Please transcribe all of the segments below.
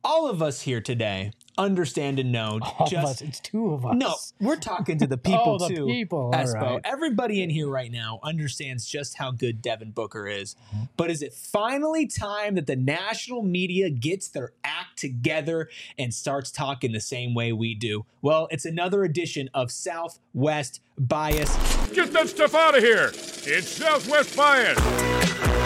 all of us here today understand and know. All of us. It's two of us. No, we're talking to the people the too. people. Espo. All right. Everybody in here right now understands just how good Devin Booker is. But is it finally time that the national media gets their act together and starts talking the same way we do? Well, it's another edition of Southwest Bias. Get that stuff out of here. It's Southwest Bias.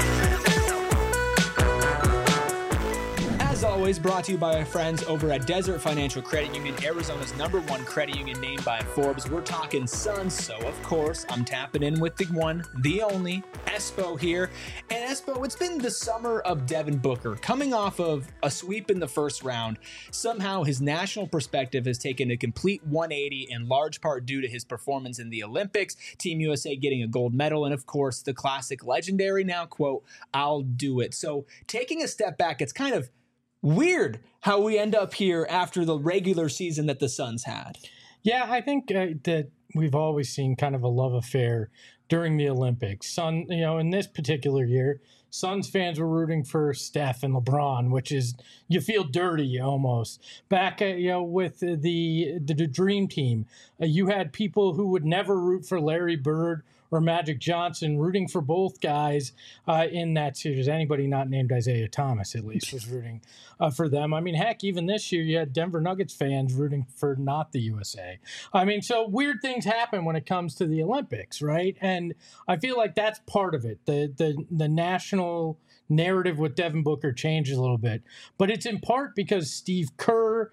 As always, brought to you by our friends over at Desert Financial Credit Union, Arizona's #1 credit union named by Forbes. We're talking Suns, so of course, I'm tapping in with the one, the only, Espo here. And Espo, it's been the summer of Devin Booker. Coming off of a sweep in the first round, somehow his national perspective has taken a complete 180, in large part due to his performance in the Olympics, Team USA getting a gold medal, and of course, the classic legendary now quote, "I'll do it." So taking a step back, it's kind of weird how we end up here after the regular season that the Suns had. Yeah, I think that we've always seen kind of a love affair during the Olympics. In this particular year, Suns fans were rooting for Steph and LeBron, which is, you feel dirty almost. Back, with the Dream Team, you had people who would never root for Larry Bird or Magic Johnson rooting for both guys in that series. Anybody not named Isaiah Thomas, at least, was rooting for them. I mean, heck, even this year, you had Denver Nuggets fans rooting for not the USA. I mean, so weird things happen when it comes to the Olympics, right? And I feel like that's part of it. The national narrative with Devin Booker changes a little bit. But it's in part because Steve Kerr,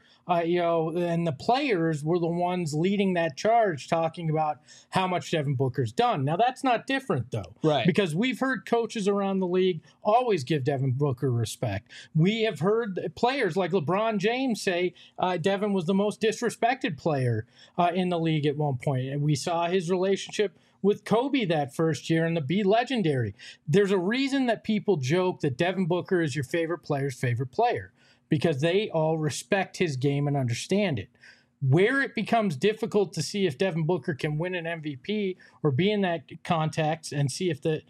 and the players were the ones leading that charge, talking about how much Devin Booker's done. Now, that's not different, though. Right. Because we've heard coaches around the league always give Devin Booker respect. We have heard players like LeBron James say Devin was the most disrespected player in the league at one point. And we saw his relationship with Kobe that first year and the Be Legendary. There's a reason that people joke that Devin Booker is your favorite player's favorite player, because they all respect his game and understand it. Where it becomes difficult to see if Devin Booker can win an MVP or be in that context and see if the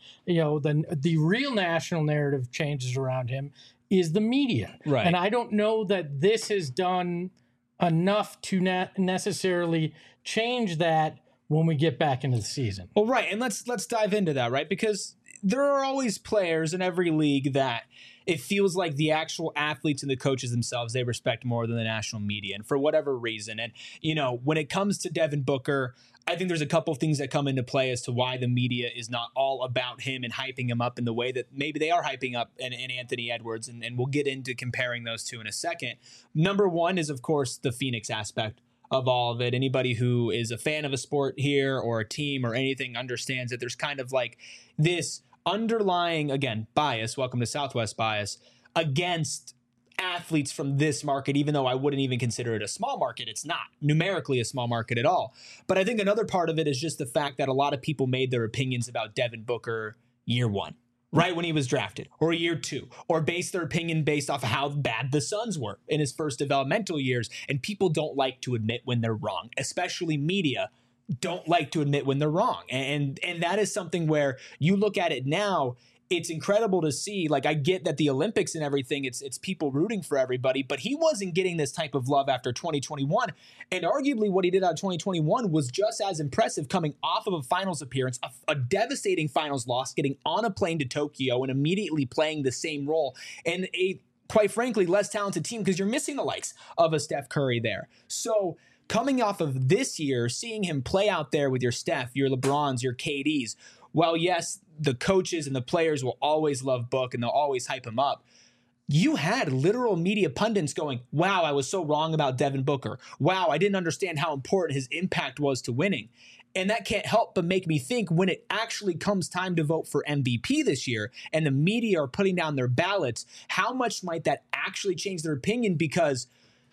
real national narrative changes around him is the media. Right. And I don't know that this has done enough to necessarily change that when we get back into the season. Well, right, and let's dive into that, right? Because there are always players in every league that it feels like the actual athletes and the coaches themselves, they respect more than the national media, and for whatever reason. And, when it comes to Devin Booker, I think there's a couple of things that come into play as to why the media is not all about him and hyping him up in the way that maybe they are hyping up in Anthony Edwards, and we'll get into comparing those two in a second. Number one is, of course, the Phoenix aspect of all of it. Anybody who is a fan of a sport here or a team or anything understands that there's kind of like this underlying, again, bias, welcome to Southwest Bias, against athletes from this market, even though I wouldn't even consider it a small market. It's not numerically a small market at all. But I think another part of it is just the fact that a lot of people made their opinions about Devin Booker year one, right when he was drafted, or year two, or based their opinion based off of how bad the Suns were in his first developmental years. And people don't like to admit when they're wrong, especially media don't like to admit when they're wrong. And that is something where you look at it now, it's incredible to see. Like, I get that the Olympics and everything, it's people rooting for everybody, but he wasn't getting this type of love after 2021. And arguably what he did out of 2021 was just as impressive, coming off of a finals appearance, a devastating finals loss, getting on a plane to Tokyo and immediately playing the same role. And a, quite frankly, less talented team, because you're missing the likes of a Steph Curry there. So coming off of this year, seeing him play out there with your Steph, your LeBrons, your KDs, while yes, the coaches and the players will always love Book and they'll always hype him up, you had literal media pundits going, wow, I was so wrong about Devin Booker. Wow, I didn't understand how important his impact was to winning. And that can't help but make me think, when it actually comes time to vote for MVP this year and the media are putting down their ballots, how much might that actually change their opinion? Because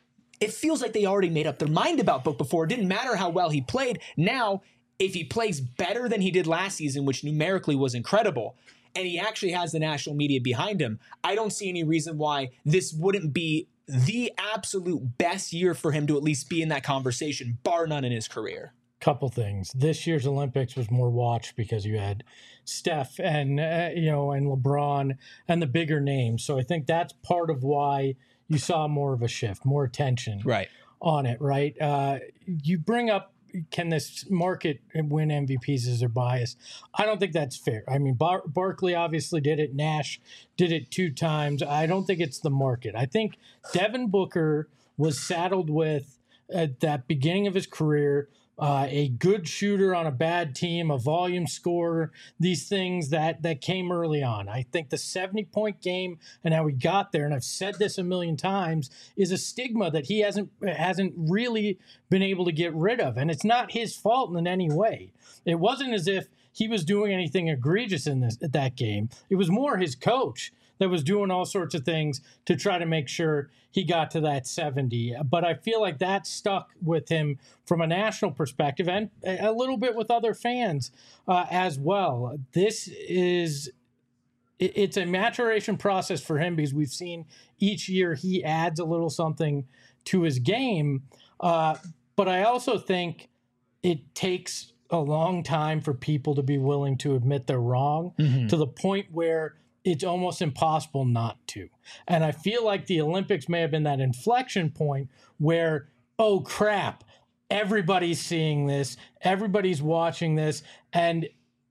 it feels like they already made up their mind about Book before. It didn't matter how well he played. Now, if he plays better than he did last season, which numerically was incredible, and he actually has the national media behind him, I don't see any reason why this wouldn't be the absolute best year for him to at least be in that conversation, bar none in his career. Couple things. This year's Olympics was more watched because you had Steph and and LeBron and the bigger names. So I think that's part of why you saw more of a shift, more attention Right. on it, right? You bring up, can this market win MVPs as their bias? I don't think that's fair. I mean, Barkley obviously did it. Nash did it 2 times. I don't think it's the market. I think Devin Booker was saddled with, at that beginning of his career, a good shooter on a bad team, a volume scorer, these things that came early on. I think the 70-point game and how he got there, and I've said this a million times, is a stigma that he hasn't really been able to get rid of. And it's not his fault in any way. It wasn't as if he was doing anything egregious in that game. It was more his coach that was doing all sorts of things to try to make sure he got to that 70. But I feel like that stuck with him from a national perspective and a little bit with other fans as well. It's a maturation process for him because we've seen each year he adds a little something to his game. But I also think it takes a long time for people to be willing to admit they're wrong to the point where it's almost impossible not to. And I feel like the Olympics may have been that inflection point where, oh crap, everybody's seeing this, everybody's watching this, and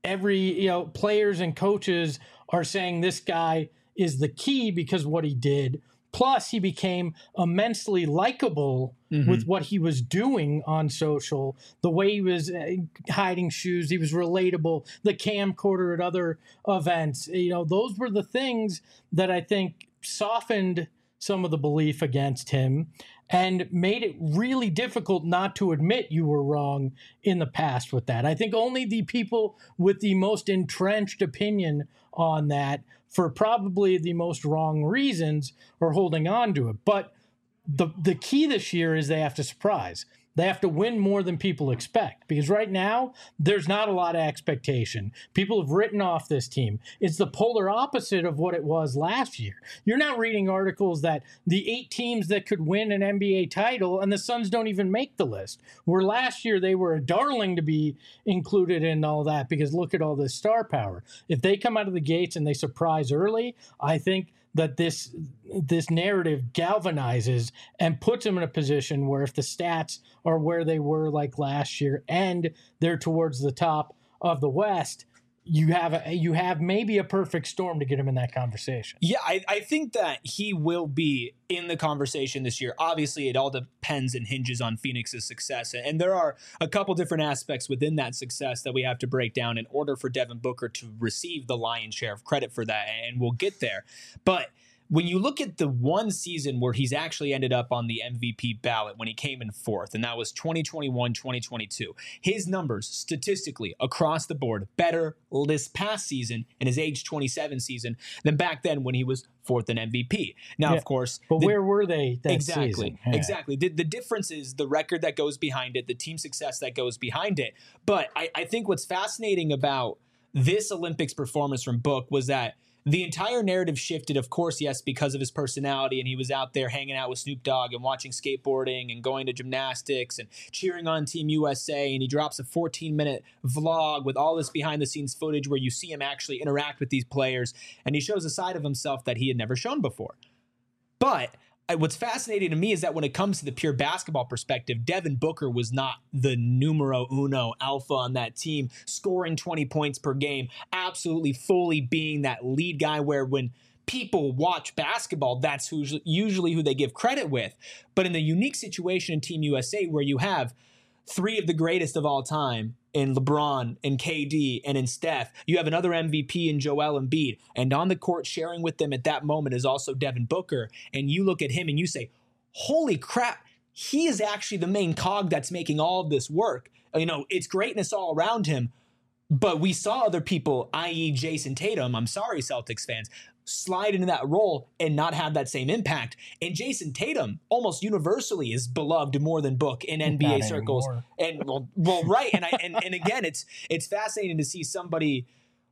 players and coaches are saying this guy is the key because what he did. Plus, he became immensely likable with what he was doing on social, the way he was hiding shoes. He was relatable, the camcorder at other events. Those were the things that I think softened some of the belief against him and made it really difficult not to admit you were wrong in the past with that. I think only the people with the most entrenched opinion on that, for probably the most wrong reasons, are holding on to it. But the key this year is they have to surprise. They have to win more than people expect, because right now there's not a lot of expectation. People have written off this team. It's the polar opposite of what it was last year. You're not reading articles that the 8 teams that could win an NBA title and the Suns don't even make the list, where last year they were a darling to be included in all that because look at all this star power. If they come out of the gates and they surprise early, I think that this narrative galvanizes and puts them in a position where if the stats are where they were like last year and they're towards the top of the West, you have maybe a perfect storm to get him in that conversation. Yeah, I think that he will be in the conversation this year. Obviously, it all depends and hinges on Phoenix's success. And there are a couple different aspects within that success that we have to break down in order for Devin Booker to receive the lion's share of credit for that. And we'll get there. But when you look at the one season where he's actually ended up on the MVP ballot when he came in 4th, and that was 2021-2022, his numbers statistically across the board better this past season in his age 27 season than back then when he was 4th in MVP. Now, of course, but where were they that season? Yeah. Exactly. The difference is the record that goes behind it, the team success that goes behind it. But I think what's fascinating about this Olympics performance from Book was that the entire narrative shifted, of course, yes, because of his personality, and he was out there hanging out with Snoop Dogg and watching skateboarding and going to gymnastics and cheering on Team USA, and he drops a 14-minute vlog with all this behind-the-scenes footage where you see him actually interact with these players, and he shows a side of himself that he had never shown before. But what's fascinating to me is that when it comes to the pure basketball perspective, Devin Booker was not the numero uno alpha on that team, scoring 20 points per game, absolutely fully being that lead guy where when people watch basketball, that's usually who they give credit with. But in the unique situation in Team USA where you have 3 of the greatest of all time in LeBron and KD and in Steph, you have another MVP in Joel Embiid, and on the court sharing with them at that moment is also Devin Booker, and you look at him and you say, holy crap, he is actually the main cog that's making all of this work. It's greatness all around him, but we saw other people, i.e. Jason Tatum, I'm sorry, Celtics fans, slide into that role and not have that same impact. And Jason Tatum almost universally is beloved more than Book in NBA circles. And well, right. And again, it's fascinating to see somebody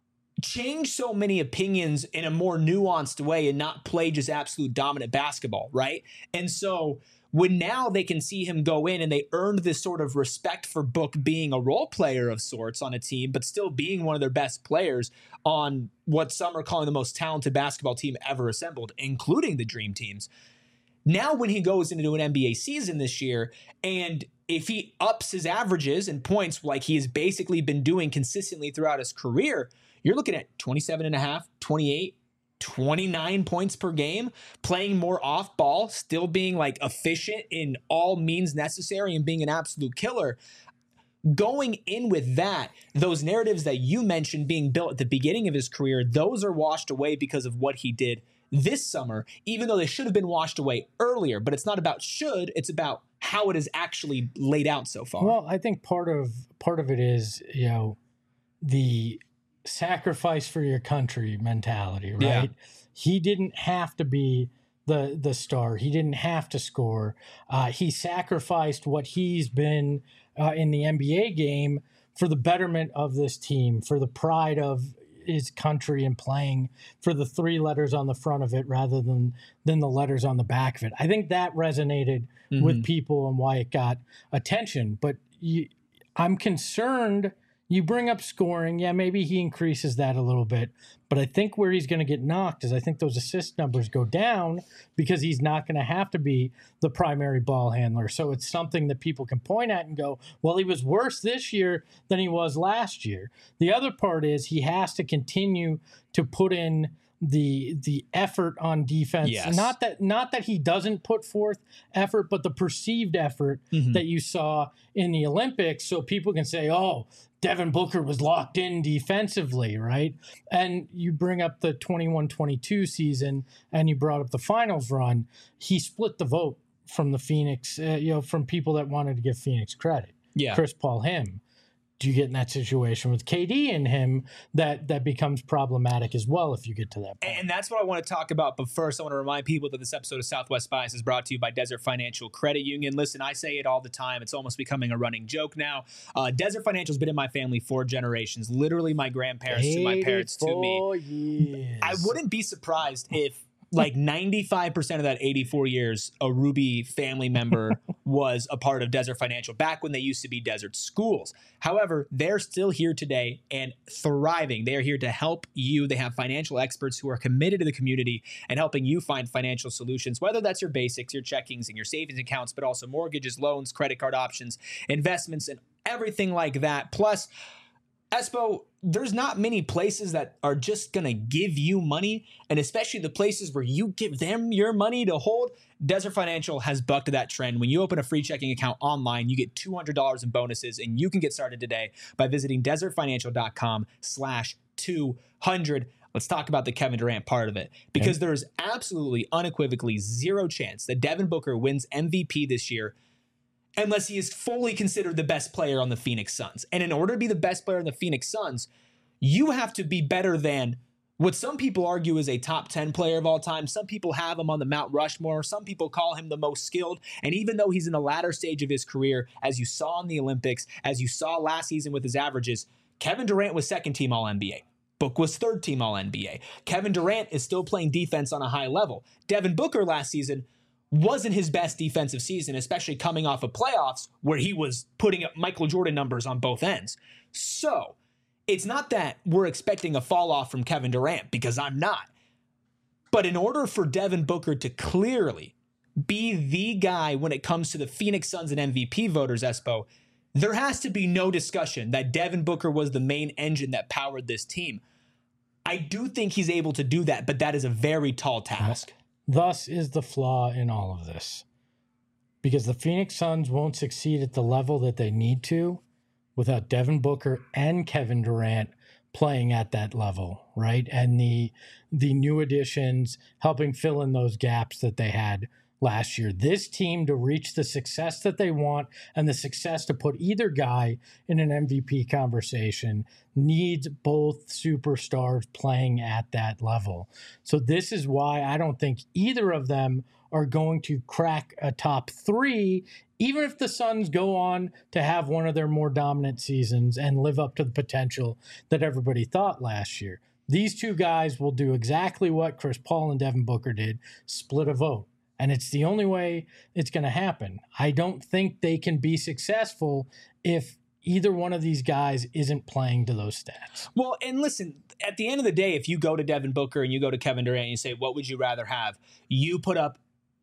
change so many opinions in a more nuanced way and not play just absolute dominant basketball, right? And so when now they can see him go in and they earned this sort of respect for Book being a role player of sorts on a team, but still being one of their best players on what some are calling the most talented basketball team ever assembled, including the Dream Teams. Now when he goes into an NBA season this year, and if he ups his averages and points like he has basically been doing consistently throughout his career, you're looking at 27.5, 28, 29 points per game, playing more off ball, still being like efficient in all means necessary and being an absolute killer. Going in with that, those narratives that you mentioned being built at the beginning of his career, those are washed away because of what he did this summer, even though they should have been washed away earlier. But it's not about should, it's about how it is actually laid out so far. Well, I think part of it is, the sacrifice for your country mentality, right? Yeah. He didn't have to be the star. He didn't have to score. He sacrificed what he's been in the NBA game for the betterment of this team, for the pride of his country and playing for the 3 letters on the front of it rather than the letters on the back of it. I think that resonated with people and why it got attention. But I'm concerned. You bring up scoring. Yeah, maybe he increases that a little bit. But I think where he's going to get knocked is I think those assist numbers go down because he's not going to have to be the primary ball handler. So it's something that people can point at and go, well, he was worse this year than he was last year. The other part is he has to continue to put in the effort on defense. Yes. Not that he doesn't put forth effort, but the perceived effort that you saw in the Olympics. So people can say, oh, Devin Booker was locked in defensively, right? And you bring up the 21-22 season and you brought up the finals run. He split the vote from the Phoenix, from people that wanted to give Phoenix credit. Yeah. Chris Paul, him. Do you get in that situation with KD and him that becomes problematic as well if you get to that point? And that's what I want to talk about. But first, I want to remind people that this episode of Southwest Bias is brought to you by Desert Financial Credit Union. Listen, I say it all the time. It's almost becoming a running joke now. Desert Financial has been in my family 4 generations, literally my grandparents to my parents to me. Years. I wouldn't be surprised if like 95% of that 84 years, a Ruby family member was a part of Desert Financial back when they used to be Desert Schools. However, they're still here today and thriving. They are here to help you. They have financial experts who are committed to the community and helping you find financial solutions, whether that's your basics, your checkings, and your savings accounts, but also mortgages, loans, credit card options, investments, and everything like that. Plus, Espo, there's not many places that are just going to give you money, and especially the places where you give them your money to hold. Desert Financial has bucked that trend. When you open a free checking account online, you get $200 in bonuses, and you can get started today by visiting desertfinancial.com/200. Let's talk about the Kevin Durant part of it, because there is absolutely, unequivocally zero chance that Devin Booker wins MVP this year unless he is fully considered the best player on the Phoenix Suns. And in order to be the best player on the Phoenix Suns, you have to be better than what some people argue is a top 10 player of all time. Some people have him on the Mount Rushmore. Some people call him the most skilled. And even though he's in the latter stage of his career, as you saw in the Olympics, as you saw last season with his averages, Kevin Durant was second team All-NBA. Book was third team All-NBA. Kevin Durant is still playing defense on a high level. Devin Booker last season wasn't his best defensive season, especially coming off of playoffs where he was putting up Michael Jordan numbers on both ends. So it's not that we're expecting a fall off from Kevin Durant, because I'm not. But in order for Devin Booker to clearly be the guy when it comes to the Phoenix Suns and MVP voters, Espo, there has to be no discussion that Devin Booker was the main engine that powered this team. I do think he's able to do that, but that is a very tall task. Thus is the flaw in all of this. Because the Phoenix Suns won't succeed at the level that they need to without Devin Booker and Kevin Durant playing at that level, right? And the new additions helping fill in those gaps that they had last year. This team, to reach the success that they want and the success to put either guy in an MVP conversation, needs both superstars playing at that level. So this is why I don't think either of them are going to crack a top 3, even if the Suns go on to have one of their more dominant seasons and live up to the potential that everybody thought last year. These two guys will do exactly what Chris Paul and Devin Booker did, split a vote. And it's the only way it's going to happen. I don't think they can be successful if either one of these guys isn't playing to those stats. Well, and listen, at the end of the day, if you go to Devin Booker and you go to Kevin Durant and you say, what would you rather have? You put up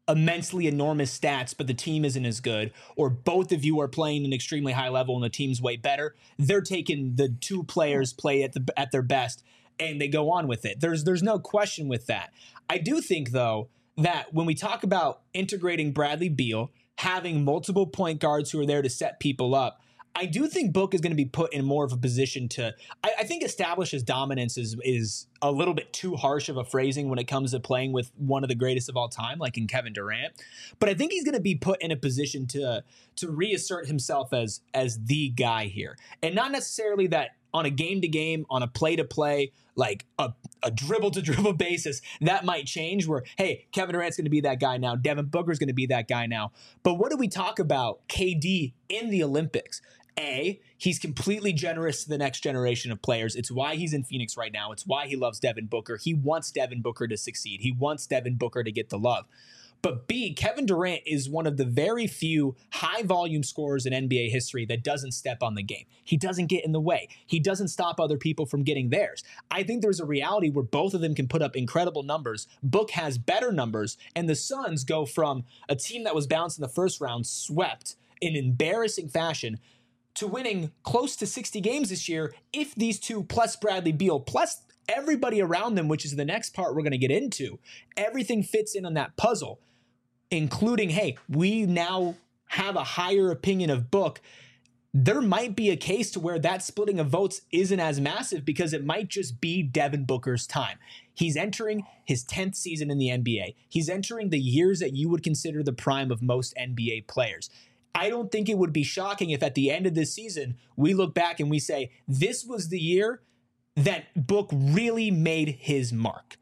immensely enormous stats, but the team isn't as good, or both of you are playing an extremely high level and the team's way better, they're taking the two players play at their best and they go on with it. There's no question with that. I do think, though, that when we talk about integrating Bradley Beal, having multiple point guards who are there to set people up, I do think Book is going to be put in more of a position to, I think establish his dominance is a little bit too harsh of a phrasing when it comes to playing with one of the greatest of all time, like in Kevin Durant. But I think he's going to be put in a position to reassert himself as the guy here. And not necessarily that on a game-to-game, on a play-to-play, like a dribble-to-dribble basis, that might change where, hey, Kevin Durant's going to be that guy now. Devin Booker's going to be that guy now. But what do we talk about KD in the Olympics? He's completely generous to the next generation of players. It's why he's in Phoenix right now. It's why he loves Devin Booker. He wants Devin Booker to succeed. He wants Devin Booker to get the love. But B, Kevin Durant is one of the very few high-volume scorers in NBA history that doesn't step on the game. He doesn't get in the way. He doesn't stop other people from getting theirs. I think there's a reality where both of them can put up incredible numbers. Book has better numbers, and the Suns go from a team that was bounced in the first round, swept in embarrassing fashion, to winning close to 60 games this year if these two, plus Bradley Beal, plus everybody around them, which is the next part we're going to get into, everything fits in on that puzzle, including, hey, we now have a higher opinion of Book. There might be a case to where that splitting of votes isn't as massive because it might just be Devin Booker's time. He's entering his 10th season in the NBA. He's entering the years that you would consider the prime of most NBA players. I don't think it would be shocking if at the end of this season, we look back and we say, this was the year that Book really made his mark.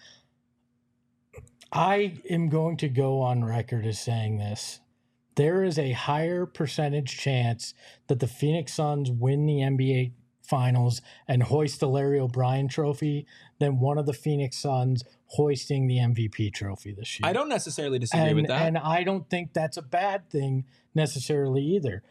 I am going to go on record as saying this. There is a higher percentage chance that the Phoenix Suns win the NBA Finals and hoist the Larry O'Brien trophy than one of the Phoenix Suns hoisting the MVP trophy this year. I don't necessarily disagree with that. And I don't think that's a bad thing necessarily either.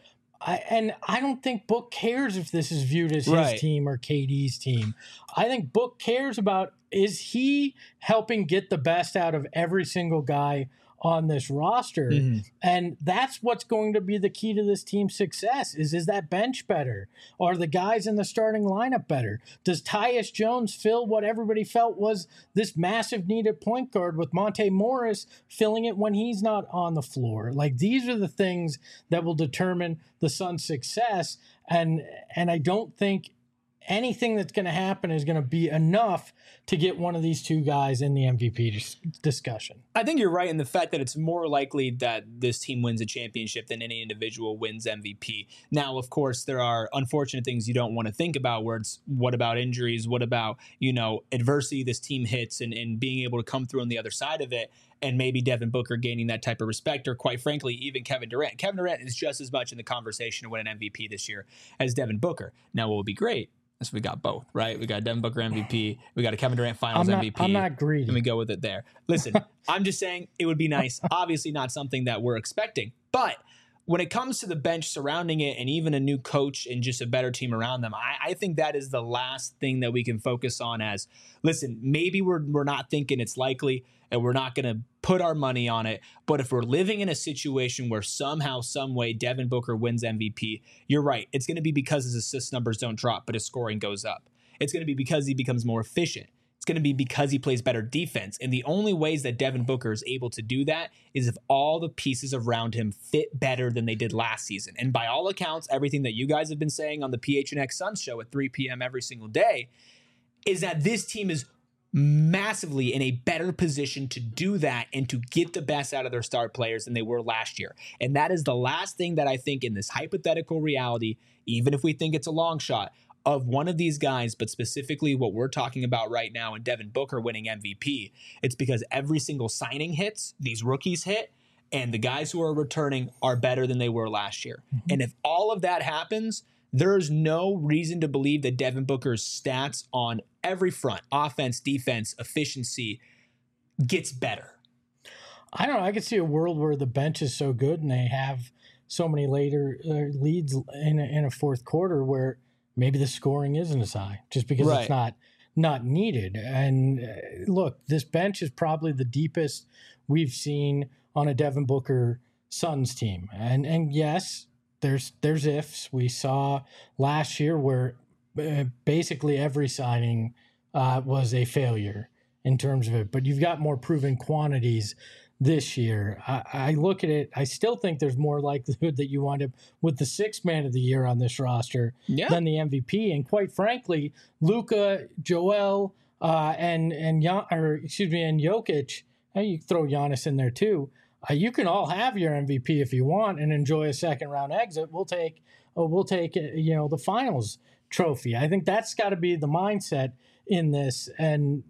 I don't think Book cares if this is viewed as his team or KD's team. I think Book cares about, is he helping get the best out of every single guy on this roster? Mm-hmm. And that's what's going to be the key to this team's success is that bench better? Are the guys in the starting lineup better? Does Tyus Jones fill what everybody felt was this massive need at point guard with Monte Morris filling it when he's not on the floor? Like, these are the things that will determine the Suns' success. And I don't think anything that's going to happen is going to be enough to get one of these two guys in the MVP discussion. I think you're right in the fact that it's more likely that this team wins a championship than any individual wins MVP. Now, of course, there are unfortunate things you don't want to think about where it's what about injuries? What about, adversity this team hits and being able to come through on the other side of it, and maybe Devin Booker gaining that type of respect, or quite frankly, even Kevin Durant. Kevin Durant is just as much in the conversation to win an MVP this year as Devin Booker. Now, what would be great? So we got both, right? We got Devin Booker MVP. We got a Kevin Durant Finals MVP. I'm not greedy. And we go with it there. Listen, I'm just saying it would be nice. Obviously not something that we're expecting. But when it comes to the bench surrounding it and even a new coach and just a better team around them, I think that is the last thing that we can focus on as, listen, maybe we're not thinking it's likely and we're not going to put our money on it. But if we're living in a situation where somehow, some way, Devin Booker wins MVP, you're right. It's going to be because his assist numbers don't drop, but his scoring goes up. It's going to be because he becomes more efficient. It's going to be because he plays better defense. And the only ways that Devin Booker is able to do that is if all the pieces around him fit better than they did last season. And by all accounts, everything that you guys have been saying on the PHNX Suns show at 3 p.m. every single day is that this team is massively in a better position to do that and to get the best out of their star players than they were last year. And that is the last thing that I think in this hypothetical reality, even if we think it's a long shot, of one of these guys, but specifically what we're talking about right now in Devin Booker winning MVP, it's because every single signing hits, these rookies hit, and the guys who are returning are better than they were last year. Mm-hmm. And if all of that happens, there's no reason to believe that Devin Booker's stats on every front, offense, defense, efficiency, gets better. I don't know. I could see a world where the bench is so good and they have so many later leads in a fourth quarter where maybe the scoring isn't as high just because it's not needed. And look, this bench is probably the deepest we've seen on a Devin Booker Suns team. And yes, there's ifs. We saw last year where basically every signing was a failure in terms of it, but you've got more proven quantities this year. I look at it, I still think there's more likelihood that you wind up with the sixth man of the year on this roster than the MVP. And quite frankly, Luka, Joel, and Jokic, you throw Giannis in there too. You can all have your MVP if you want and enjoy a second round exit. We'll take the finals trophy. I think that's got to be the mindset in this. And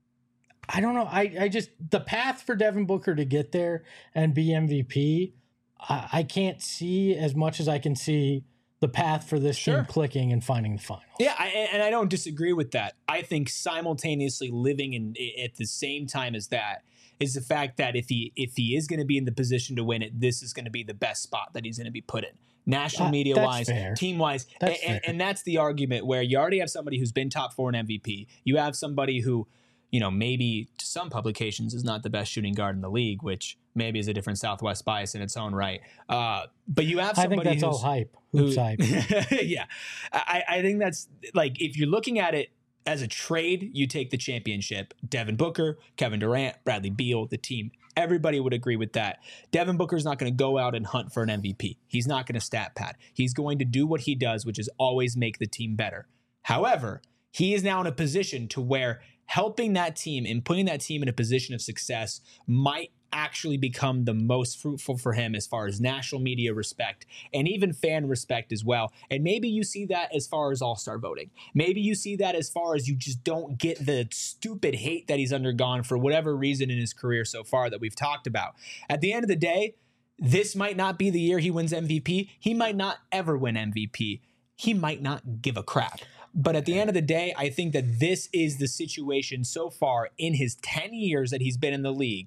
I don't know. I just, the path for Devin Booker to get there and be MVP, I can't see as much as I can see the path for this team clicking and finding the finals. Yeah, and I don't disagree with that. I think simultaneously living at the same time as that is the fact that if he is going to be in the position to win it, this is going to be the best spot that he's going to be put in. National media wise, team wise. And that's the argument where you already have somebody who's been top 4 in MVP. You have somebody who, maybe to some publications is not the best shooting guard in the league, which maybe is a different Southwest bias in its own right. But you have somebody I think that's all hype. Who's hype? Yeah. I think that's like, if you're looking at it as a trade, you take the championship. Devin Booker, Kevin Durant, Bradley Beal, the team. Everybody would agree with that. Devin Booker's not going to go out and hunt for an MVP. He's not going to stat pad. He's going to do what he does, which is always make the team better. However, he is now in a position to where helping that team and putting that team in a position of success might actually become the most fruitful for him as far as national media respect and even fan respect as well. And maybe you see that as far as all-star voting. Maybe you see that as far as you just don't get the stupid hate that he's undergone for whatever reason in his career so far that we've talked about. At the end of the day, this might not be the year he wins MVP. He might not ever win MVP. He might not give a crap. But at the end of the day, I think that this is the situation so far in his 10 years that he's been in the league,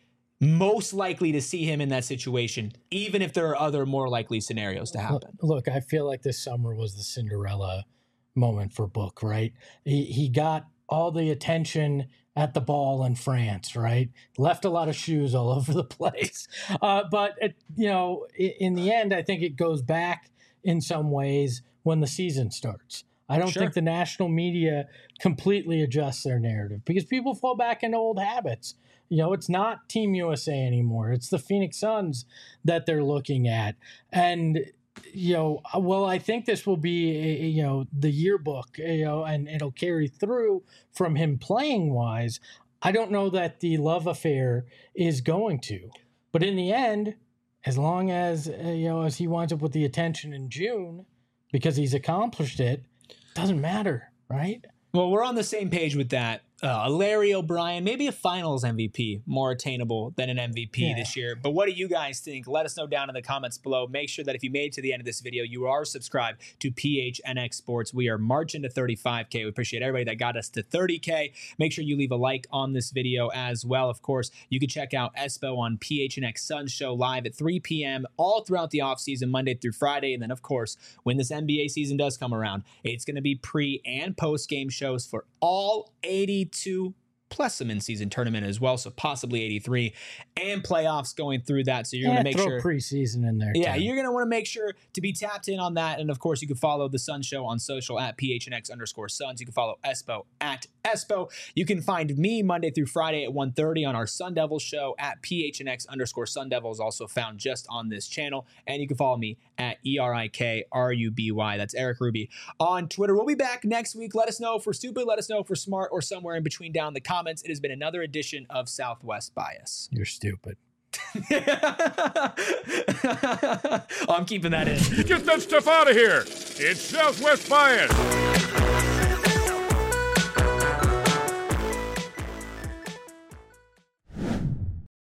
most likely to see him in that situation, even if there are other more likely scenarios to happen. Look, I feel like this summer was the Cinderella moment for Book, right? He got all the attention at the ball in France, right? Left a lot of shoes all over the place. But in the end, I think it goes back in some ways when the season starts. I don't think the national media completely adjusts their narrative because people fall back into old habits. It's not Team USA anymore. It's the Phoenix Suns that they're looking at. And, I think this will be, the yearbook, and it'll carry through from him playing wise. I don't know that the love affair is going to. But in the end, as long as, as he winds up with the attention in June, because he's accomplished it, doesn't matter, right? Well, we're on the same page with that. Larry O'Brien, maybe a finals MVP, more attainable than an MVP this year. But what do you guys think? Let us know down in the comments below. Make sure that if you made it to the end of this video, you are subscribed to PHNX Sports. We are marching to 35K. We appreciate everybody that got us to 30K. Make sure you leave a like on this video as well. Of course, you can check out Espo on PHNX Suns Show live at 3 p.m. all throughout the offseason, Monday through Friday. And then, of course, when this NBA season does come around, it's going to be pre- and post-game shows for all 82 plus some in-season tournament as well, so possibly 83 and playoffs going through that. So you're going to make sure preseason in there. Yeah, you're going to want to make sure to be tapped in on that. And of course, you can follow the Sun Show on social at PHNX_Suns. You can follow Espo at Espo. You can find me Monday through Friday at 1:30 on our Sun Devils show at PHNX_Sun Devils, also found just on this channel. And you can follow me at ERIKRUBY. That's Eric Ruby on Twitter. We'll be back next week. Let us know if we're stupid. Let us know if we're smart or somewhere in between down in the comments. It has been another edition of Southwest Bias. You're stupid. I'm keeping that in. Get that stuff out of here. It's Southwest Bias.